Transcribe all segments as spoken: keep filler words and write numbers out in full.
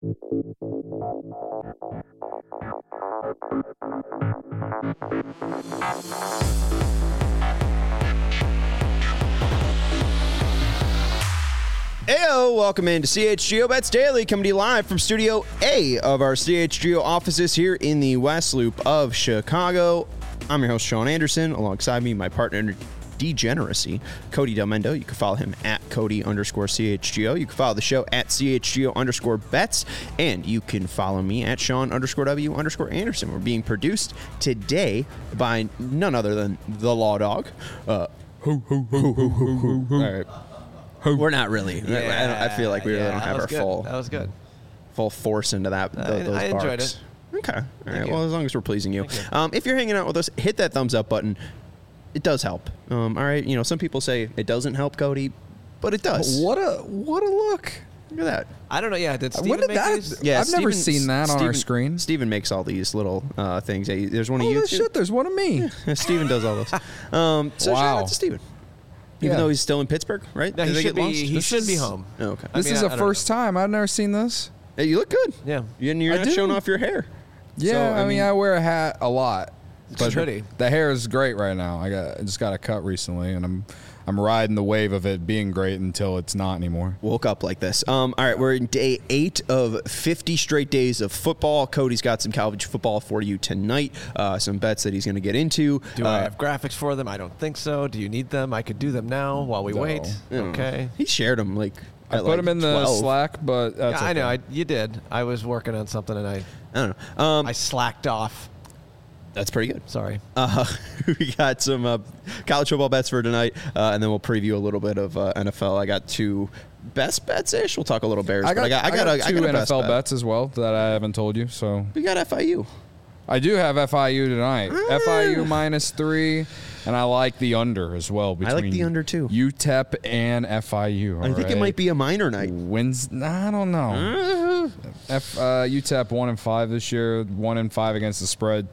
Heyo, welcome into C H G O Bets Daily, coming to you live from Studio A of our C H G O offices here in the West Loop of Chicago. I'm your host, Sean Anderson. Alongside me, my partner in degeneracy, Cody Del Mendo. You can follow him at Cody underscore C H G O. You can follow the show at C H G O underscore bets. And you can follow me at Sean underscore W underscore Anderson. We're being produced today by none other than the Law Dog. Uh, hoo, hoo, hoo, hoo, hoo, hoo, hoo. All right. We're not really. Yeah, I, I feel like we really yeah, don't have our good. full. That was good. Full force into that. The, I, those I barks. enjoyed it. Okay. All Thank right. you. Well, as long as we're pleasing you. you. Um, if you're hanging out with us, hit that thumbs up button. It does help. Um, all right. You know, some people say it doesn't help, Cody, but it does. What a what a look. Look at that. I don't know. Yeah, did Steven When did make that? these? Yeah, I've never Steven- seen that on Steven, our screen. Steven makes all these little uh, things. Yeah, there's one of Oh, you. shit, there's one of me. Steven does all those. Um, so shout Wow. out to Steven. Even Yeah. though he's still in Pittsburgh, right? No, Did he they should get be. lost? He This should be is- home. Oh, okay. I This mean, is I- the I don't first time. I've never seen this. Hey, you look good. Yeah. And you're I not do. showing off your hair. Yeah, So, I, mean, I wear a hat a lot. It's pretty. The hair is great right now. I got I just got a cut recently, and I'm I'm riding the wave of it being great until it's not anymore. Woke up like this. Um, all right, we're in day eight of fifty straight days of football. Cody's got some college football for you tonight. Uh, some bets that he's going to get into. Do uh, I have graphics for them? I don't think so. Do you need them? I could do them now while we No. wait. I don't know. Okay. He shared them like. I at, put like them in the twelve. Slack, but that's Yeah, I know. okay. I, you did. I was working on something and I I don't know. Um, I slacked off. that's pretty good. Sorry. Uh, we got some uh, college football bets for tonight, uh, and then we'll preview a little bit of uh, N F L. I got two best bets ish. We'll talk a little Bears. I got, but I got, I got, I a, got I two got a N best F L bet. bets as well that I haven't told you. So We got F I U. I do have F I U tonight. Ah. F I U minus three, and I like the under as well. I like Between the under, too. U T E P and F I U. I think it might be a minor night. Wins. I don't know. F uh, U T E P one and five this year. One and five against the spread.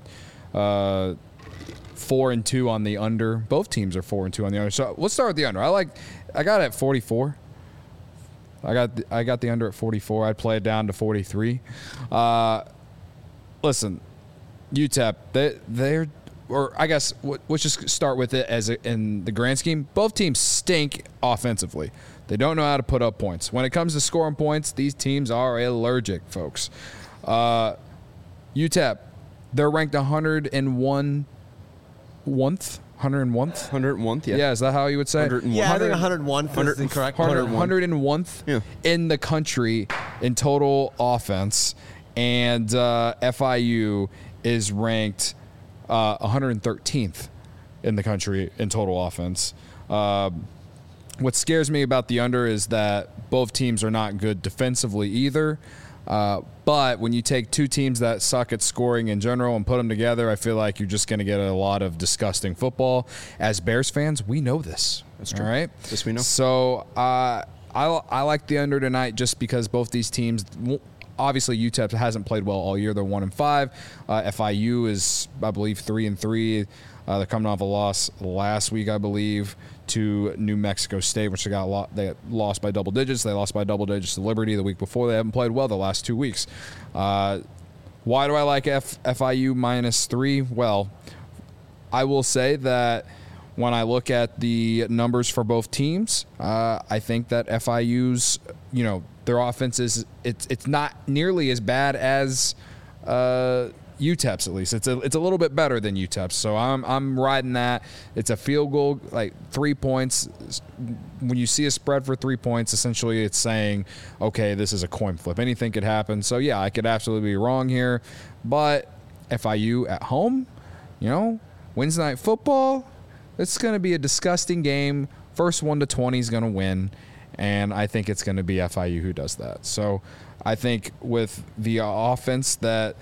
Uh, four and two on the under. Both teams are four and two on the under. So let's start with the under. I like. I got it at forty-four. I got. The, I got the under at forty-four. I'd play it down to forty-three. Uh, listen, U T E P. They they're. Or I guess what, let's just start with it as a, in the grand scheme. Both teams stink offensively. They don't know how to put up points. When it comes to scoring points, these teams are allergic, folks. Uh, U T E P, they're ranked one hundred one. One-th? one hundred one? one hundred one th, yeah. Yeah, is that how you would say? one hundred one. Yeah, I think one hundred one is the correct one hundred, one. one hundred one th Yeah. in the country in total offense, and uh, F I U is ranked uh, one hundred thirteenth in the country in total offense. Uh, what scares me about the under is that both teams are not good defensively either. Uh, but when you take two teams that suck at scoring in general and put them together, I feel like you're just going to get a lot of disgusting football. As Bears fans, we know this. That's true. All right? This we know. So uh, I, I like the under tonight just because both these teams, obviously U T E P hasn't played well all year. They're one and five. Uh, F I U is, I believe, three and three. Uh, they're coming off a loss last week, I believe, to New Mexico State, which they got lo- they got lost by double digits. They lost by double digits to Liberty the week before. They haven't played well the last two weeks. Uh, why do I like F- FIU minus three? Well, I will say that when I look at the numbers for both teams, uh, I think that F I U's, you know, their offense is it's it's not nearly as bad as uh, U T E P's at least. It's a it's a little bit better than U T E P's. So I'm I'm riding that. It's a field goal, like three points. When you see a spread for three points, essentially it's saying, okay, this is a coin flip. Anything could happen. So yeah, I could absolutely be wrong here, but F I U at home, you know, Wednesday night football. It's going to be a disgusting game. First one to twenty is going to win, and I think it's going to be F I U who does that. So I think with the offense that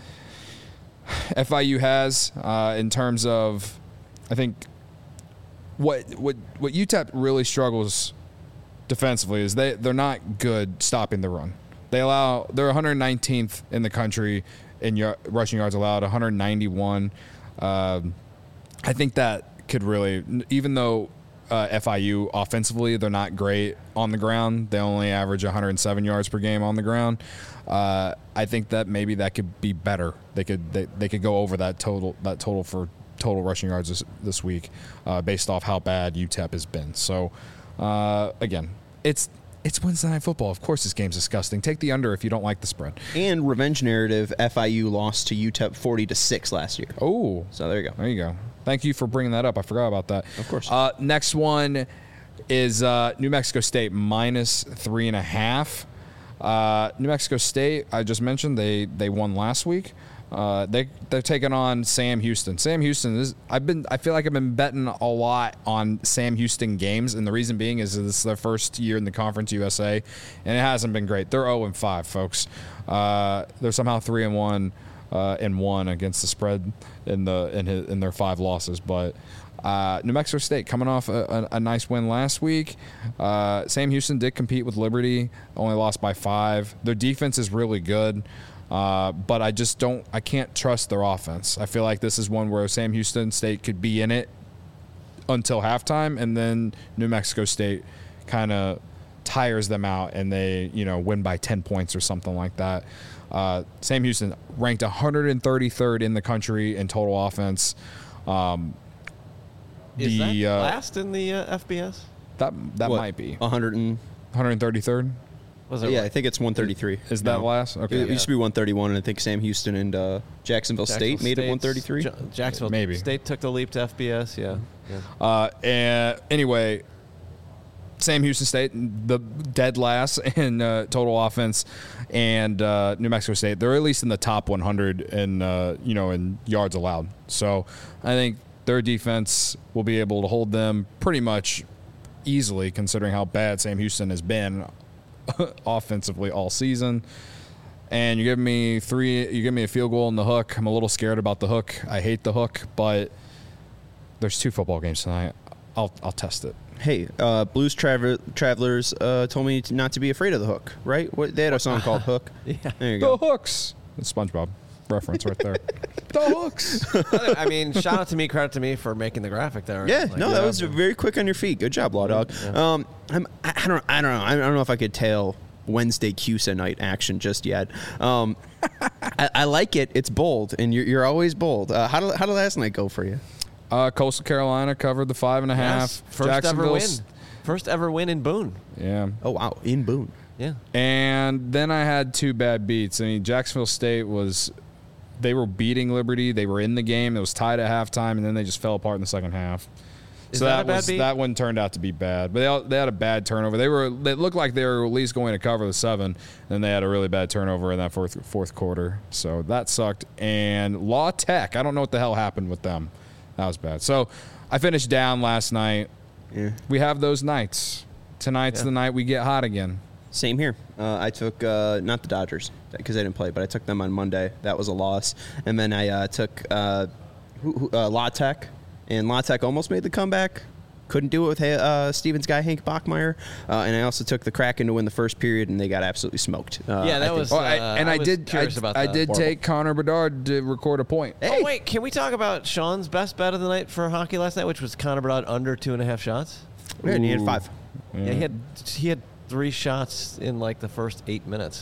F I U has uh, in terms of, I think what what what U T E P really struggles defensively is they they're not good stopping the run. They allow they're one hundred nineteenth in the country in y- rushing yards allowed, one hundred ninety-one. Um, I think that could really, even though uh, F I U offensively, they're not great on the ground. They only average one hundred seven yards per game on the ground. Uh, I think that maybe that could be better. They could they, they could go over that total that total for total rushing yards this, this week, uh, based off how bad U T E P has been. So uh, again, it's it's Wednesday Night Football. Of course, this game's disgusting. Take the under if you don't like the spread. And revenge narrative, F I U lost to U T E P forty to six last year. Oh, so there you go. There you go. Thank you for bringing that up. I forgot about that. Of course. Uh, next one is uh, New Mexico State minus three and a half. Uh, New Mexico State, I just mentioned they they won last week. Uh, they they're taking on Sam Houston. Sam Houston is I've been I feel like I've been betting a lot on Sam Houston games, and the reason being is this is their first year in the Conference U S A, and it hasn't been great. They're oh and five, folks. Uh, they're somehow three and one uh, and one against the spread in the in his, in their five losses, but. Uh, New Mexico State coming off a, a, a nice win last week. Uh, Sam Houston did compete with Liberty, only lost by five. Their defense is really good, uh, but I just don't. I can't trust their offense. I feel like this is one where Sam Houston State could be in it until halftime, and then New Mexico State kind of tires them out, and they you know win by ten points or something like that. Uh, Sam Houston ranked one hundred thirty-third in the country in total offense. Um, Is the, that uh, last in the uh, F B S? That that What, might be one hundred and one hundred thirty-third. Was it yeah, like- I think it's one thirty-three. Is that No. last? Okay. It used to be one thirty-one, and I think Sam Houston and uh, Jacksonville, State made it State's- one thirty-three. Ja- Jacksonville Maybe. State took the leap to F B S. Yeah. yeah. Uh, and anyway, Sam Houston State, the dead last in uh, total offense, and uh, New Mexico State, they're at least in the top one hundred in uh, you know in yards allowed. So I think their defense will be able to hold them pretty much easily, considering how bad Sam Houston has been offensively all season. And you give me three, you give me a field goal in the hook. I'm a little scared about the hook. I hate the hook, but there's two football games tonight. I'll I'll test it. Hey, uh, Blues Traver- Travelers uh, told me to not to be afraid of the hook, right? What, they had a song called Hook. Yeah. There you The go. hooks. That's SpongeBob reference right there. The hooks. I mean, shout out to me, credit to me for making the graphic there. Yeah, Like, no, that was very quick on your feet. Good job, Law Dog. Yeah. Um, I'm, I, I don't, I don't know. I don't know if I could tail Wednesday C U S A night action just yet. Um, I, I like it. It's bold, and you're, you're always bold. Uh, how did how did last night go for you? Uh, Coastal Carolina covered the five and a half. Yes, first ever win. Jacksonville's- First ever win in Boone. Yeah. Oh wow, in Boone. Yeah. And then I had two bad beats. I mean, Jacksonville State was, they were beating Liberty. They were in the game. It was tied at halftime, and then they just fell apart in the second half. Is so that that, a bad was beat? that one turned out to be bad. But they all, they had a bad turnover. They were they looked like they were at least going to cover the seven, and they had a really bad turnover in that fourth fourth quarter. So that sucked. And Law Tech, I don't know what the hell happened with them. That was bad. So I finished down last night. Yeah. We have those nights. Tonight's Yeah. the night we get hot again. Same here. Uh, I took uh, not the Dodgers because I didn't play, but I took them on Monday. That was a loss, and then I uh, took uh, who, who, uh, La Tech, and La Tech almost made the comeback. Couldn't do it with uh, Stevens guy Hank Bachmeyer, uh, and I also took the Kraken to win the first period, and they got absolutely smoked. Uh, Yeah, that I think- was- Oh, I, Uh, and I I, was did. curious I, about I that. did Horrible. take Connor Bedard to record a point. Oh, wait. Can we talk about Sean's best bet of the night for hockey last night, which was Connor Bedard under two and a half shots? Yeah, and he had five. Yeah, he had he had three shots in like the first eight minutes.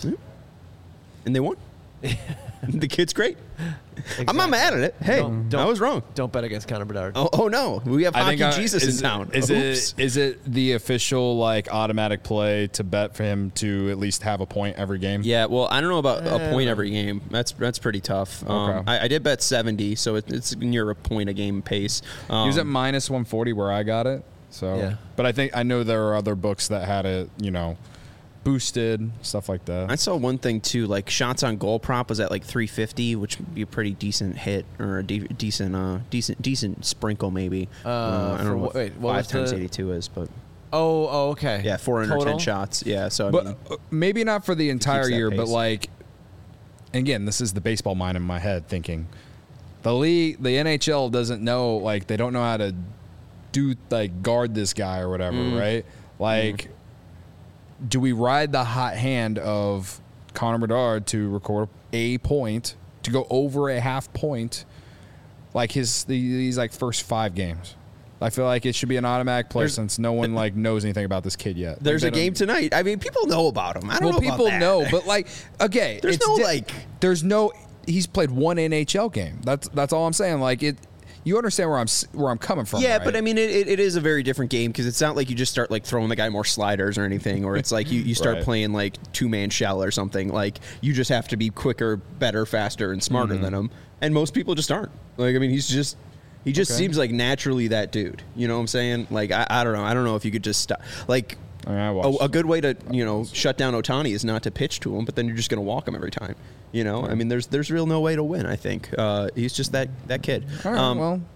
And they won. The kid's great. I'm not Exactly. mad at it. Hey, Don't- I was wrong. Don't bet against Connor Bedard. Oh, oh no, we have I hockey think I- Jesus is, in town. Is Oops. it is it the official like automatic play to bet for him to at least have a point every game? Yeah, well, I don't know about a Uh, point every game. That's that's pretty tough. Um, Okay. I, I did bet seventy, so it, it's near a point a game pace. Um, He was at minus one forty where I got it. So, Yeah. but I think I know there are other books that had it, you know, boosted stuff like that. I saw one thing too, like shots on goal prop was at like three fifty, which would be a pretty decent hit or a de- decent, uh, decent, decent sprinkle maybe. Uh, I don't for know what- what wait, what five was times the- eighty-two is, but Oh, oh, okay. yeah, four hundred ten Total? shots. Yeah, so I But mean, uh, maybe not for the entire that year, but pace. like, again, this is the baseball mind in my head thinking the league, the N H L doesn't know, like, they don't know how to do, like, guard this guy or whatever, Mm. right? Like, do we ride the hot hand of Connor Bedard to record a point, to go over a half point, like his, these, like, first five games? I feel like it should be an automatic play There's- since no one like knows anything about this kid yet. There's Like, a they game don't- tonight. I mean, people know about him. I don't Well, know about people that. know, but like, okay, There's it's no, di- like- there's no. He's played one N H L game. That's that's all I'm saying. Like it, you understand where I'm s- where I'm coming from. Yeah, right? but I mean, it, it, it is a very different game because it's not like you just start like throwing the guy more sliders or anything, or it's like you, you start Right. playing like two man shell or something. Like you just have to be quicker, better, faster, and smarter Mm-hmm. than him. And most people just aren't. Like I mean, he's just he just Okay. seems like naturally that dude. You know what I'm saying? Like I, I don't know. I don't know if you could just stop. Like I mean, I a, watched- a good way to you know shut down Ohtani is not to pitch to him, but then you're just going to walk him every time. You know, I mean, there's there's real no way to win. I think uh, he's just that that kid. All right, Um, well,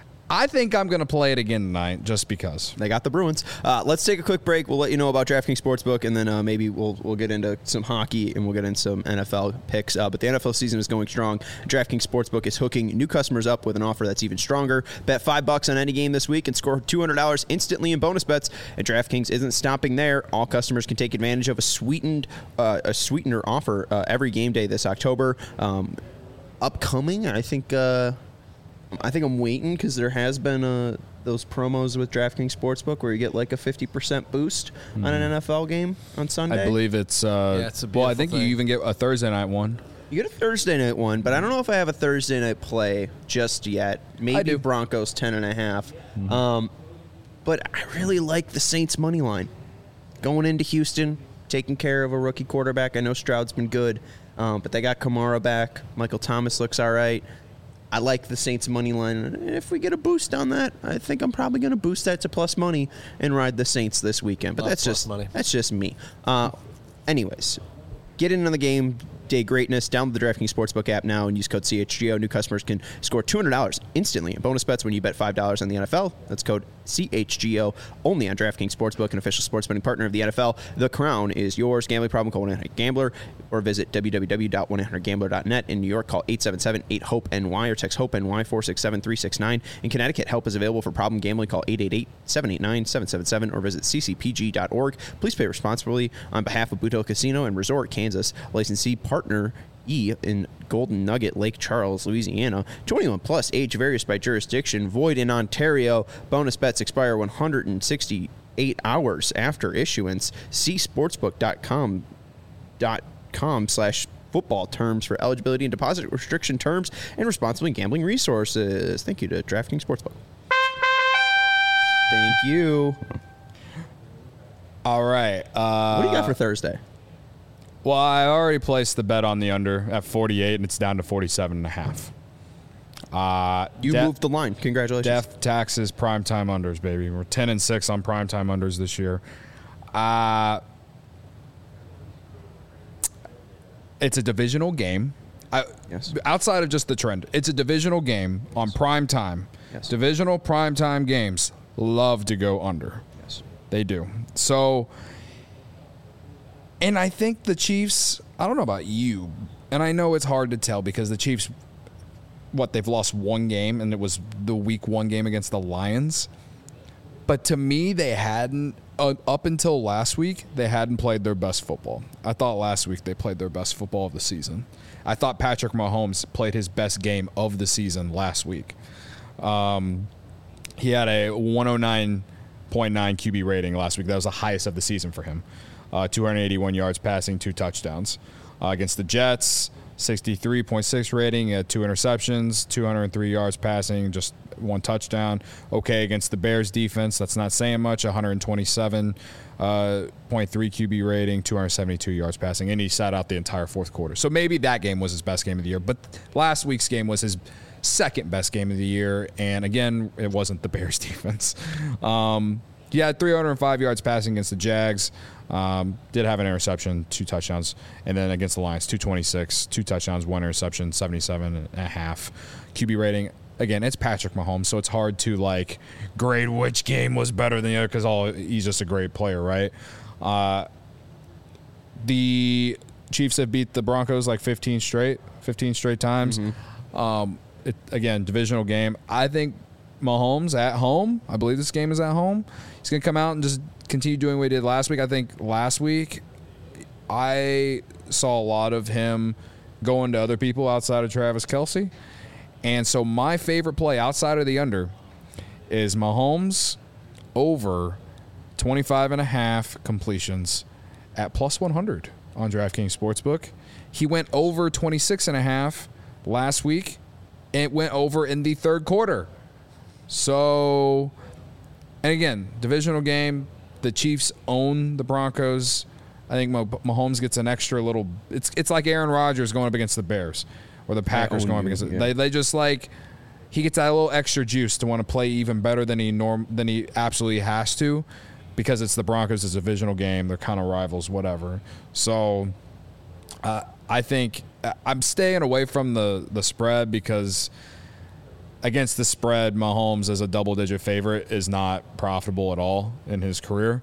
I think I'm gonna play it again tonight just because. They got the Bruins. Uh, let's take a quick break. We'll let you know about DraftKings Sportsbook, and then uh, maybe we'll we'll get into some hockey and we'll get into some N F L picks. Uh, but the N F L season is going strong. DraftKings Sportsbook is hooking new customers up with an offer that's even stronger. Bet five bucks on any game this week and score two hundred dollars instantly in bonus bets. And DraftKings isn't stopping there. All customers can take advantage of a sweetened uh, a sweetener offer uh, every game day this October. Um, upcoming, I think. Uh, I think I'm waiting because there has been uh, those promos with DraftKings Sportsbook where you get like a fifty percent boost on an N F L game on Sunday. I believe it's. Uh, Yeah, it's a well, I beautiful think thing. you even get a Thursday night one. You get a Thursday night one, but I don't know if I have a Thursday night play just yet. Maybe do. Broncos ten and a half. Um, but I really like the Saints money line. Going into Houston, taking care of a rookie quarterback. I know Stroud's been good, um, but they got Kamara back. Michael Thomas looks all right. I like the Saints money line. And if we get a boost on that, I think I'm probably going to boost that to plus money and ride the Saints this weekend. But Love that's plus just money. that's just me. Uh, anyways, get into the game day greatness. Download the DraftKings Sportsbook app now and use code C H G O. New customers can score two hundred dollars instantly in bonus bets when you bet five dollars on the N F L. That's code C H G O only on DraftKings Sportsbook, an official sports betting partner of the N F L. The crown is yours. Gambling problem, call one eight hundred gambler or visit w w w dot one eight hundred gambler dot net. In New York, call eight seven seven eight hope N Y or text HOPE-NY four six seven three six nine. In Connecticut, help is available for problem gambling. Call eight eight eight seven eight nine seven seven seven or visit c c p g dot org. Please pay responsibly on behalf of Boot Hill Casino and Resort, Kansas. Licensee partner E in Golden Nugget, Lake Charles, Louisiana. twenty-one plus, age varies by jurisdiction. Void in Ontario. Bonus bets expire one hundred sixty-eight hours after issuance. See sportsbook dot com dot com slash football terms for eligibility and deposit restriction terms and responsible gambling resources. Thank you to DraftKings Sportsbook. Thank you. All right. Uh, What do you got for Thursday? Well, I already placed the bet on the under at forty-eight, and it's down to forty-seven and a half. Uh, You de- moved the line. Congratulations. Death, taxes, primetime unders, baby. We're ten and six on primetime unders this year. Uh, it's a divisional game. I, Yes. Outside of just the trend, it's a divisional game on prime time. Yes. Divisional primetime games love to go under. Yes. They do. So, and I think the Chiefs, I don't know about you, and I know it's hard to tell because the Chiefs, what, they've lost one game, and it was the week one game against the Lions. But to me, they hadn't, uh, up until last week, they hadn't played their best football. I thought last week they played their best football of the season. I thought Patrick Mahomes played his best game of the season last week. Um, he had a one oh nine point nine Q B rating last week. That was the highest of the season for him. Uh, two hundred eighty-one yards passing, two touchdowns. Uh, against the Jets, sixty-three point six rating, uh, two interceptions, two hundred three yards passing, just one touchdown. Okay, against the Bears defense, that's not saying much, one twenty-seven point three Q B rating, two hundred seventy-two yards passing, and he sat out the entire fourth quarter. So maybe that game was his best game of the year, but last week's game was his second best game of the year, and again, it wasn't the Bears defense. Um, he had three hundred five yards passing against the Jags. Um, did have an interception, two touchdowns, and then against the Lions, two twenty-six, two touchdowns, one interception, seventy-seven and a half Q B rating. Again, it's Patrick Mahomes, so it's hard to like grade which game was better than the other because all he's just a great player, right? Uh, the Chiefs have beat the Broncos like fifteen straight, fifteen straight times. Mm-hmm. Um, it, again, divisional game. I think Mahomes at home, I believe this game is at home, he's going to come out and just continue doing what he did last week. I think last week I saw a lot of him going to other people outside of Travis Kelce. And so my favorite play outside of the under is Mahomes over twenty-five and a half completions at plus one hundred on DraftKings Sportsbook. He went over twenty-six and a half last week. It went over in the third quarter. So, and again, divisional game. The Chiefs own the Broncos. I think Mahomes gets an extra little. It's it's like Aaron Rodgers going up against the Bears, or the Packers going up against. Yeah. They they just like he gets that little extra juice to want to play even better than he norm than he absolutely has to, because it's the Broncos. It's a divisional game. They're kind of rivals, whatever. So, uh, I think I'm staying away from the the spread because against the spread, Mahomes as a double-digit favorite is not profitable at all in his career.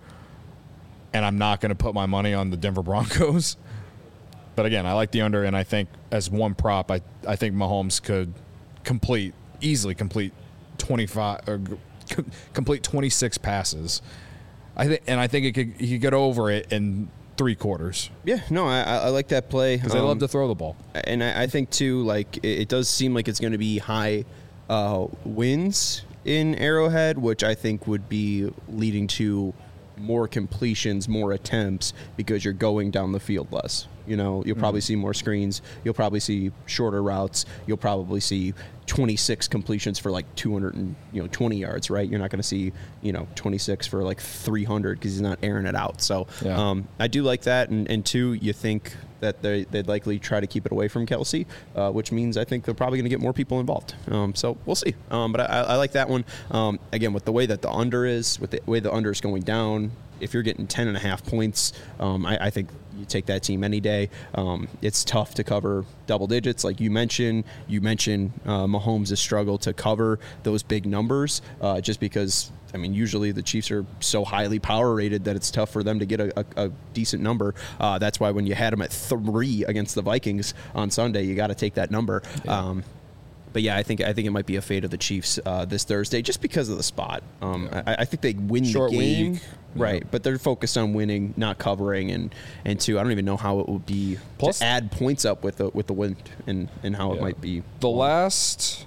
And I'm not going to put my money on the Denver Broncos. But again, I like the under, and I think as one prop, I, I think Mahomes could complete, easily complete twenty-five or complete twenty-six passes. I think, and I think it could, he could get over it in three quarters. Yeah, no, I, I like that play. Because um, they love to throw the ball. And I, I think, too, like, it, it does seem like it's going to be high uh, wins in Arrowhead, which I think would be leading to more completions, more attempts, because you're going down the field less. You know, you'll probably mm. see more screens. You'll probably see shorter routes. You'll probably see twenty-six completions for like two hundred and, you know, twenty yards, right? You're not going to see, you know, twenty-six for like three hundred because he's not airing it out. So yeah. um, I do like that. And, and two, you think that they, they'd likely try to keep it away from Kelsey, uh, which means I think they're probably going to get more people involved. Um, so we'll see. Um, but I, I like that one. Um, again, with the way that the under is, with the way the under is going down, if you're getting ten and a half points, um, I, I think you take that team any day. Um, it's tough to cover double digits, like you mentioned. You mentioned uh, Mahomes' struggle to cover those big numbers, uh, just because, I mean, usually the Chiefs are so highly power rated that it's tough for them to get a, a, a decent number. Uh, that's why when you had them at three against the Vikings on Sunday, you got to take that number. Yeah. Um, But yeah, I think I think it might be a fate of the Chiefs uh, this Thursday, just because of the spot. Um, yeah. I, I think they win Short the game, week. right? Yeah. But they're focused on winning, not covering. And and two, I don't even know how it would be Plus, to add points up with the with the win, and and how yeah. it might be. The last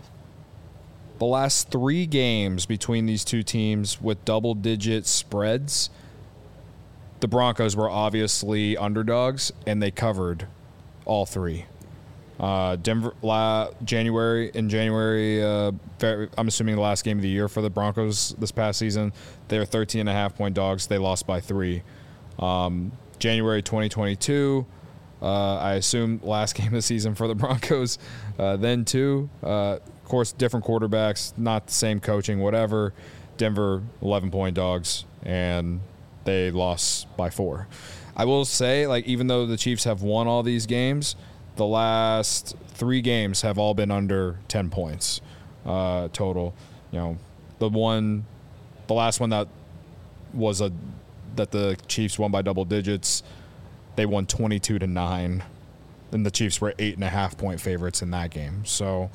the last three games between these two teams with double digit spreads, the Broncos were obviously underdogs, and they covered all three. Uh, Denver, la, January, in January, uh, I'm assuming the last game of the year for the Broncos this past season, they were thirteen and a half point dogs. They lost by three. Um, January twenty twenty-two, uh, I assume last game of the season for the Broncos. Uh, then two, uh, of course, different quarterbacks, not the same coaching, whatever. Denver, eleven point dogs, and they lost by four. I will say, like, even though the Chiefs have won all these games, the last three games have all been under ten points uh, total. You know, the one, the last one that was a that the Chiefs won by double digits, they won twenty-two to nine, and the Chiefs were eight and a half point favorites in that game. So,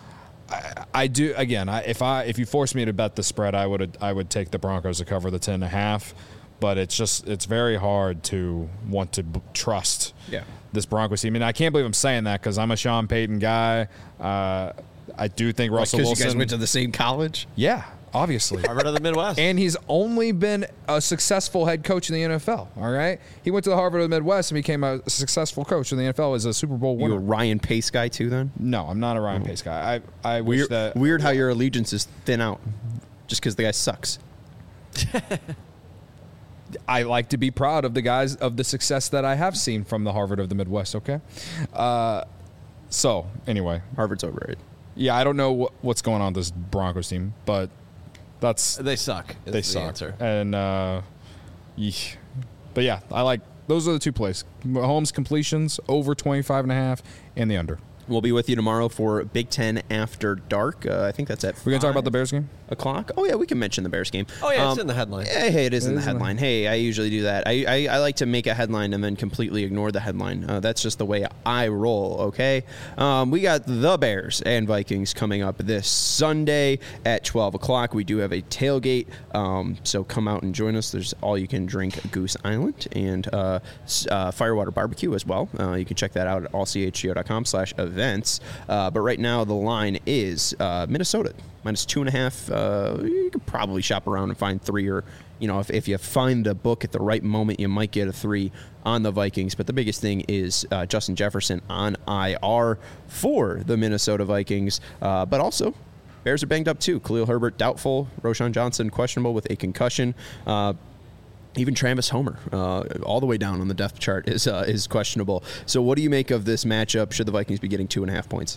I, I do again. I, if I if you force me to bet the spread, I would I would take the Broncos to cover the ten and a half. But it's just it's very hard to want to b- trust yeah. this Broncos team. I mean, I can't believe I'm saying that because I'm a Sean Payton guy. Uh, I do think Russell Wilson. Because Wilson. you guys went to the same college? Yeah, obviously. Harvard of the Midwest. And he's only been a successful head coach in the N F L. All right, he went to the Harvard of the Midwest and became a successful coach in the N F L as a Super Bowl winner. You a Ryan Pace guy too? Then no, I'm not a Ryan oh. Pace guy. I I wish weird, that weird how your allegiance is thin out, just because the guy sucks. I like to be proud of the guys of the success that I have seen from the Harvard of the Midwest. Okay, uh, so anyway, Harvard's overrated. Yeah, I don't know what, what's going on with this Broncos team, but that's they suck. They the suck. Answer. And uh, yeesh. But yeah, I like those are the two plays: Mahomes completions over twenty-five and a half, and the under. We'll be with you tomorrow for Big Ten After Dark. Uh, I think that's at We're going to talk about the Bears game? O'clock? Oh, yeah, we can mention the Bears game. Oh, yeah, um, it's in the headline. Yeah, hey, it is it in is the headline. Hey, I usually do that. I, I, I like to make a headline and then completely ignore the headline. Uh, that's just the way I roll, okay? Um, we got the Bears and Vikings coming up this Sunday at twelve o'clock. We do have a tailgate, um, so come out and join us. There's all-you-can-drink Goose Island and uh, uh, Firewater Barbecue as well. Uh, you can check that out at all c h g o dot com slash event. events. Uh, but right now the line is uh, Minnesota minus two and a half. Uh, you could probably shop around and find three, or you know, if, if you find a book at the right moment, you might get a three on the Vikings. But the biggest thing is uh, Justin Jefferson on I R for the Minnesota Vikings. Uh, but also, Bears are banged up too. Khalil Herbert doubtful. Roschon Johnson questionable with a concussion. Uh, even Travis Homer, uh, all the way down on the depth chart, is uh, is questionable. So what do you make of this matchup? Should the Vikings be getting two and a half points?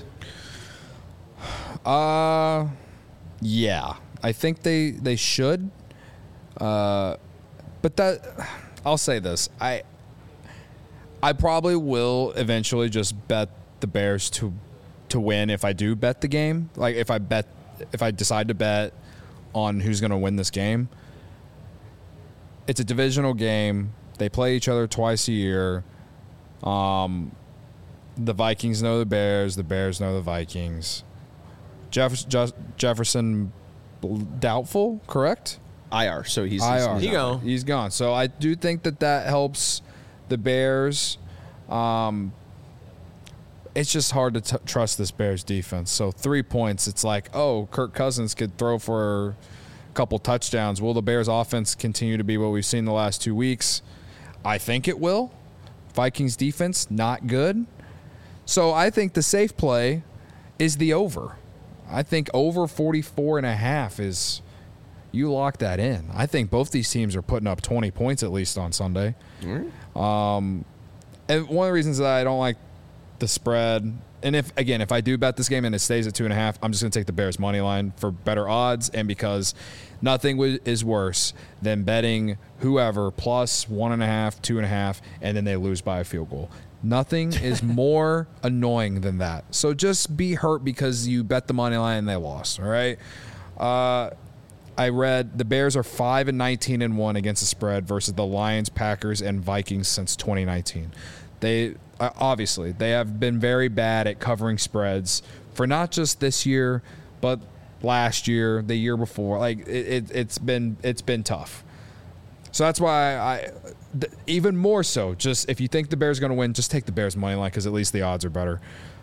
Uh, yeah. I think they, they should. Uh, but that, I'll say this. I I probably will eventually just bet the Bears to to win if I do bet the game. Like if I bet if I decide to bet on who's going to win this game. It's a divisional game. They play each other twice a year. Um, the Vikings know the Bears. The Bears know the Vikings. Jeff, Jeff, Jefferson doubtful, correct? I R, so he's, I R. he's, He he's go. He's gone. So I do think that that helps the Bears. Um, it's just hard to t- trust this Bears defense. So three points, it's like, oh, Kirk Cousins could throw for a couple touchdowns. Will the Bears offense continue to be what we've seen the last two weeks? I think it will. Vikings defense, not good. So I think the safe play is the over. I think over forty-four and a half is, you lock that in. I think both these teams are putting up twenty points at least on Sunday. Mm-hmm. Um, and one of the reasons that I don't like the spread, and if again, if I do bet this game and it stays at two and a half, I'm just going to take the Bears money line for better odds, and because nothing w- is worse than betting whoever plus one and a half, two and a half, and then they lose by a field goal. Nothing is more annoying than that. So just be hurt because you bet the money line and they lost. All right. Uh, I read the Bears are five and nineteen and one against the spread versus the Lions, Packers, and Vikings since twenty nineteen. They uh, obviously they have been very bad at covering spreads for not just this year, but last year, the year before. Like it, it, it's been it's been tough. So that's why I, th- even more so, just if you think the Bears are going to win, just take the Bears money line because at least the odds are better.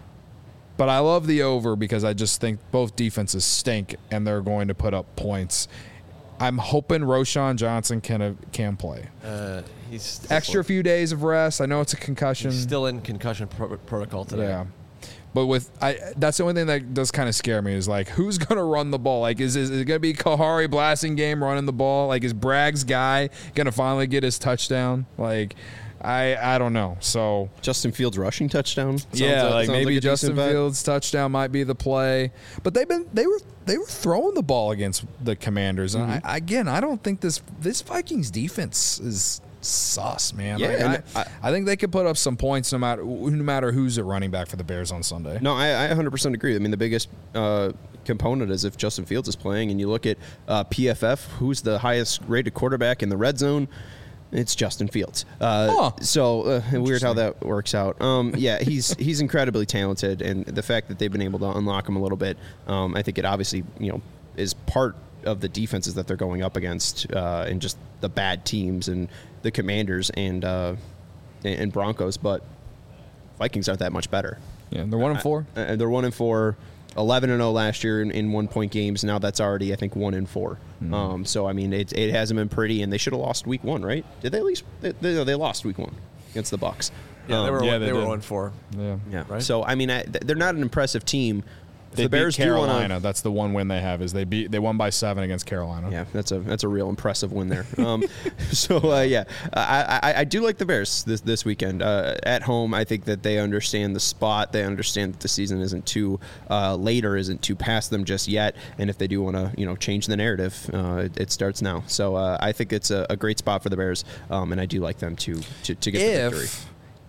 But I love the over because I just think both defenses stink and they're going to put up points. I'm hoping Roschon Johnson can uh, can play. Uh, he's still Extra few days of rest. I know it's a concussion. He's still in concussion pro- protocol today. Yeah. But with I, that's the only thing that does kind of scare me is like who's gonna run the ball? Like is, is, is it gonna be Kahari blasting game running the ball? Like is Bragg's guy gonna finally get his touchdown? Like I I don't know. So Justin Fields rushing touchdown. Sounds yeah, like, like sounds maybe like a Justin decent bet. Fields touchdown might be the play. But they've been they were they were throwing the ball against the Commanders, and Mm-hmm. I, again I don't think this this Vikings defense is sus, man. Yeah, Like, and I, I- I think they could put up some points no matter no matter who's at running back for the Bears on Sunday. No, I, I one hundred percent agree. I mean, the biggest uh, component is if Justin Fields is playing, and you look at uh, P F F, who's the highest rated quarterback in the red zone. It's Justin Fields. Uh, Huh. So uh, weird how that works out. Um, yeah, he's he's incredibly talented, and the fact that they've been able to unlock him a little bit, um, I think it obviously you know is part of the defenses that they're going up against, uh, and just the bad teams and the Commanders and uh, and Broncos. But Vikings aren't that much better. Yeah, they're one and four. Uh, they're one and four. eleven and oh last year in, in one point games. Now that's already, I think, one and four. Mm. Um, so I mean, it, it hasn't been pretty, and they should have lost week one, right? Did they at least? They, they, they lost week one against the Bucs. Yeah, they Um, were yeah, one, they they, were did. one four. Yeah, Yeah. Right? So I mean, I, they're not an impressive team. If They the Bears beat do wanna- Carolina. That's the one win they have. Is they beat they won by seven against Carolina. Yeah, that's a that's a real impressive win there. Um, so uh, yeah, I, I I do like the Bears this this weekend uh, at home. I think that they understand the spot. They understand that the season isn't too uh, late or isn't too past them just yet. And if they do want to you know change the narrative, uh, it, it starts now. So uh, I think it's a, a great spot for the Bears, um, and I do like them to to, to get the victory. If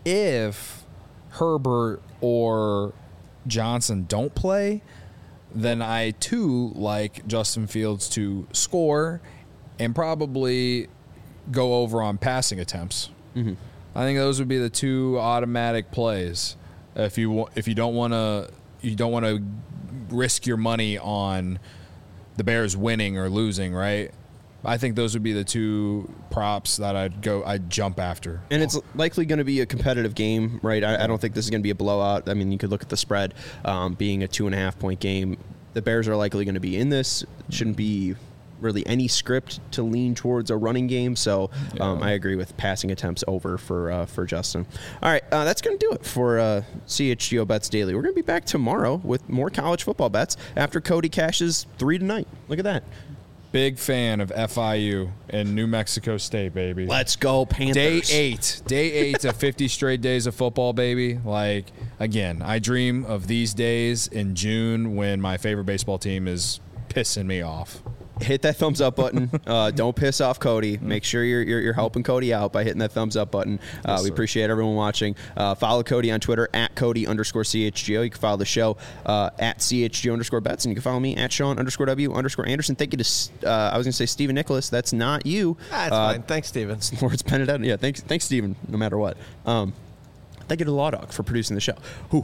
if Herbert or Johnson don't play, then I too like Justin Fields to score and probably go over on passing attempts. Mm-hmm. I think those would be the two automatic plays. If you wa- if you don't want to you don't want to risk your money on the Bears winning or losing, right? I think those would be the two props that I'd go, I'd jump after. And it's likely going to be a competitive game, right? I, I don't think this is going to be a blowout. I mean, you could look at the spread um, being a two and a half point game. The Bears are likely going to be in this. It shouldn't be really any script to lean towards a running game. So um, yeah. I agree with passing attempts over for uh, for Justin. All right, uh, that's going to do it for uh, C H G O Bets Daily. We're going to be back tomorrow with more college football bets after Cody cashes three tonight. Look at that. Big fan of F I U and New Mexico State, baby. Let's go, Panthers. Day eight. Day eight of fifty straight days of football, baby. Like, again, I dream of these days in June when my favorite baseball team is pissing me off. Hit that thumbs up button. Uh, don't piss off Cody. Make sure you're, you're, you're helping Cody out by hitting that thumbs up button. Uh, yes, we appreciate everyone watching. Uh, follow Cody on Twitter at Cody underscore CHGO. You can follow the show uh, at CHGO underscore bets, and you can follow me at Sean underscore W underscore Anderson. Thank you to, uh, I was going to say Stephen Nicholas. That's not you. That's uh, fine. Thanks, Stephen. Lawrence Benedetto. Yeah, thanks, thanks, Stephen, no matter what. Um, Thank you to Law Dog for producing the show.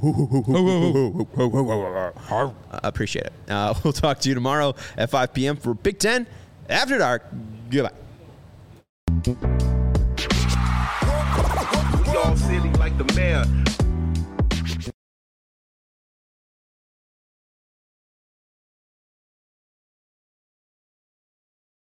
I appreciate it. Uh, we'll talk to you tomorrow at five p.m. for Big Ten After Dark. Goodbye. We all silly like the mayor.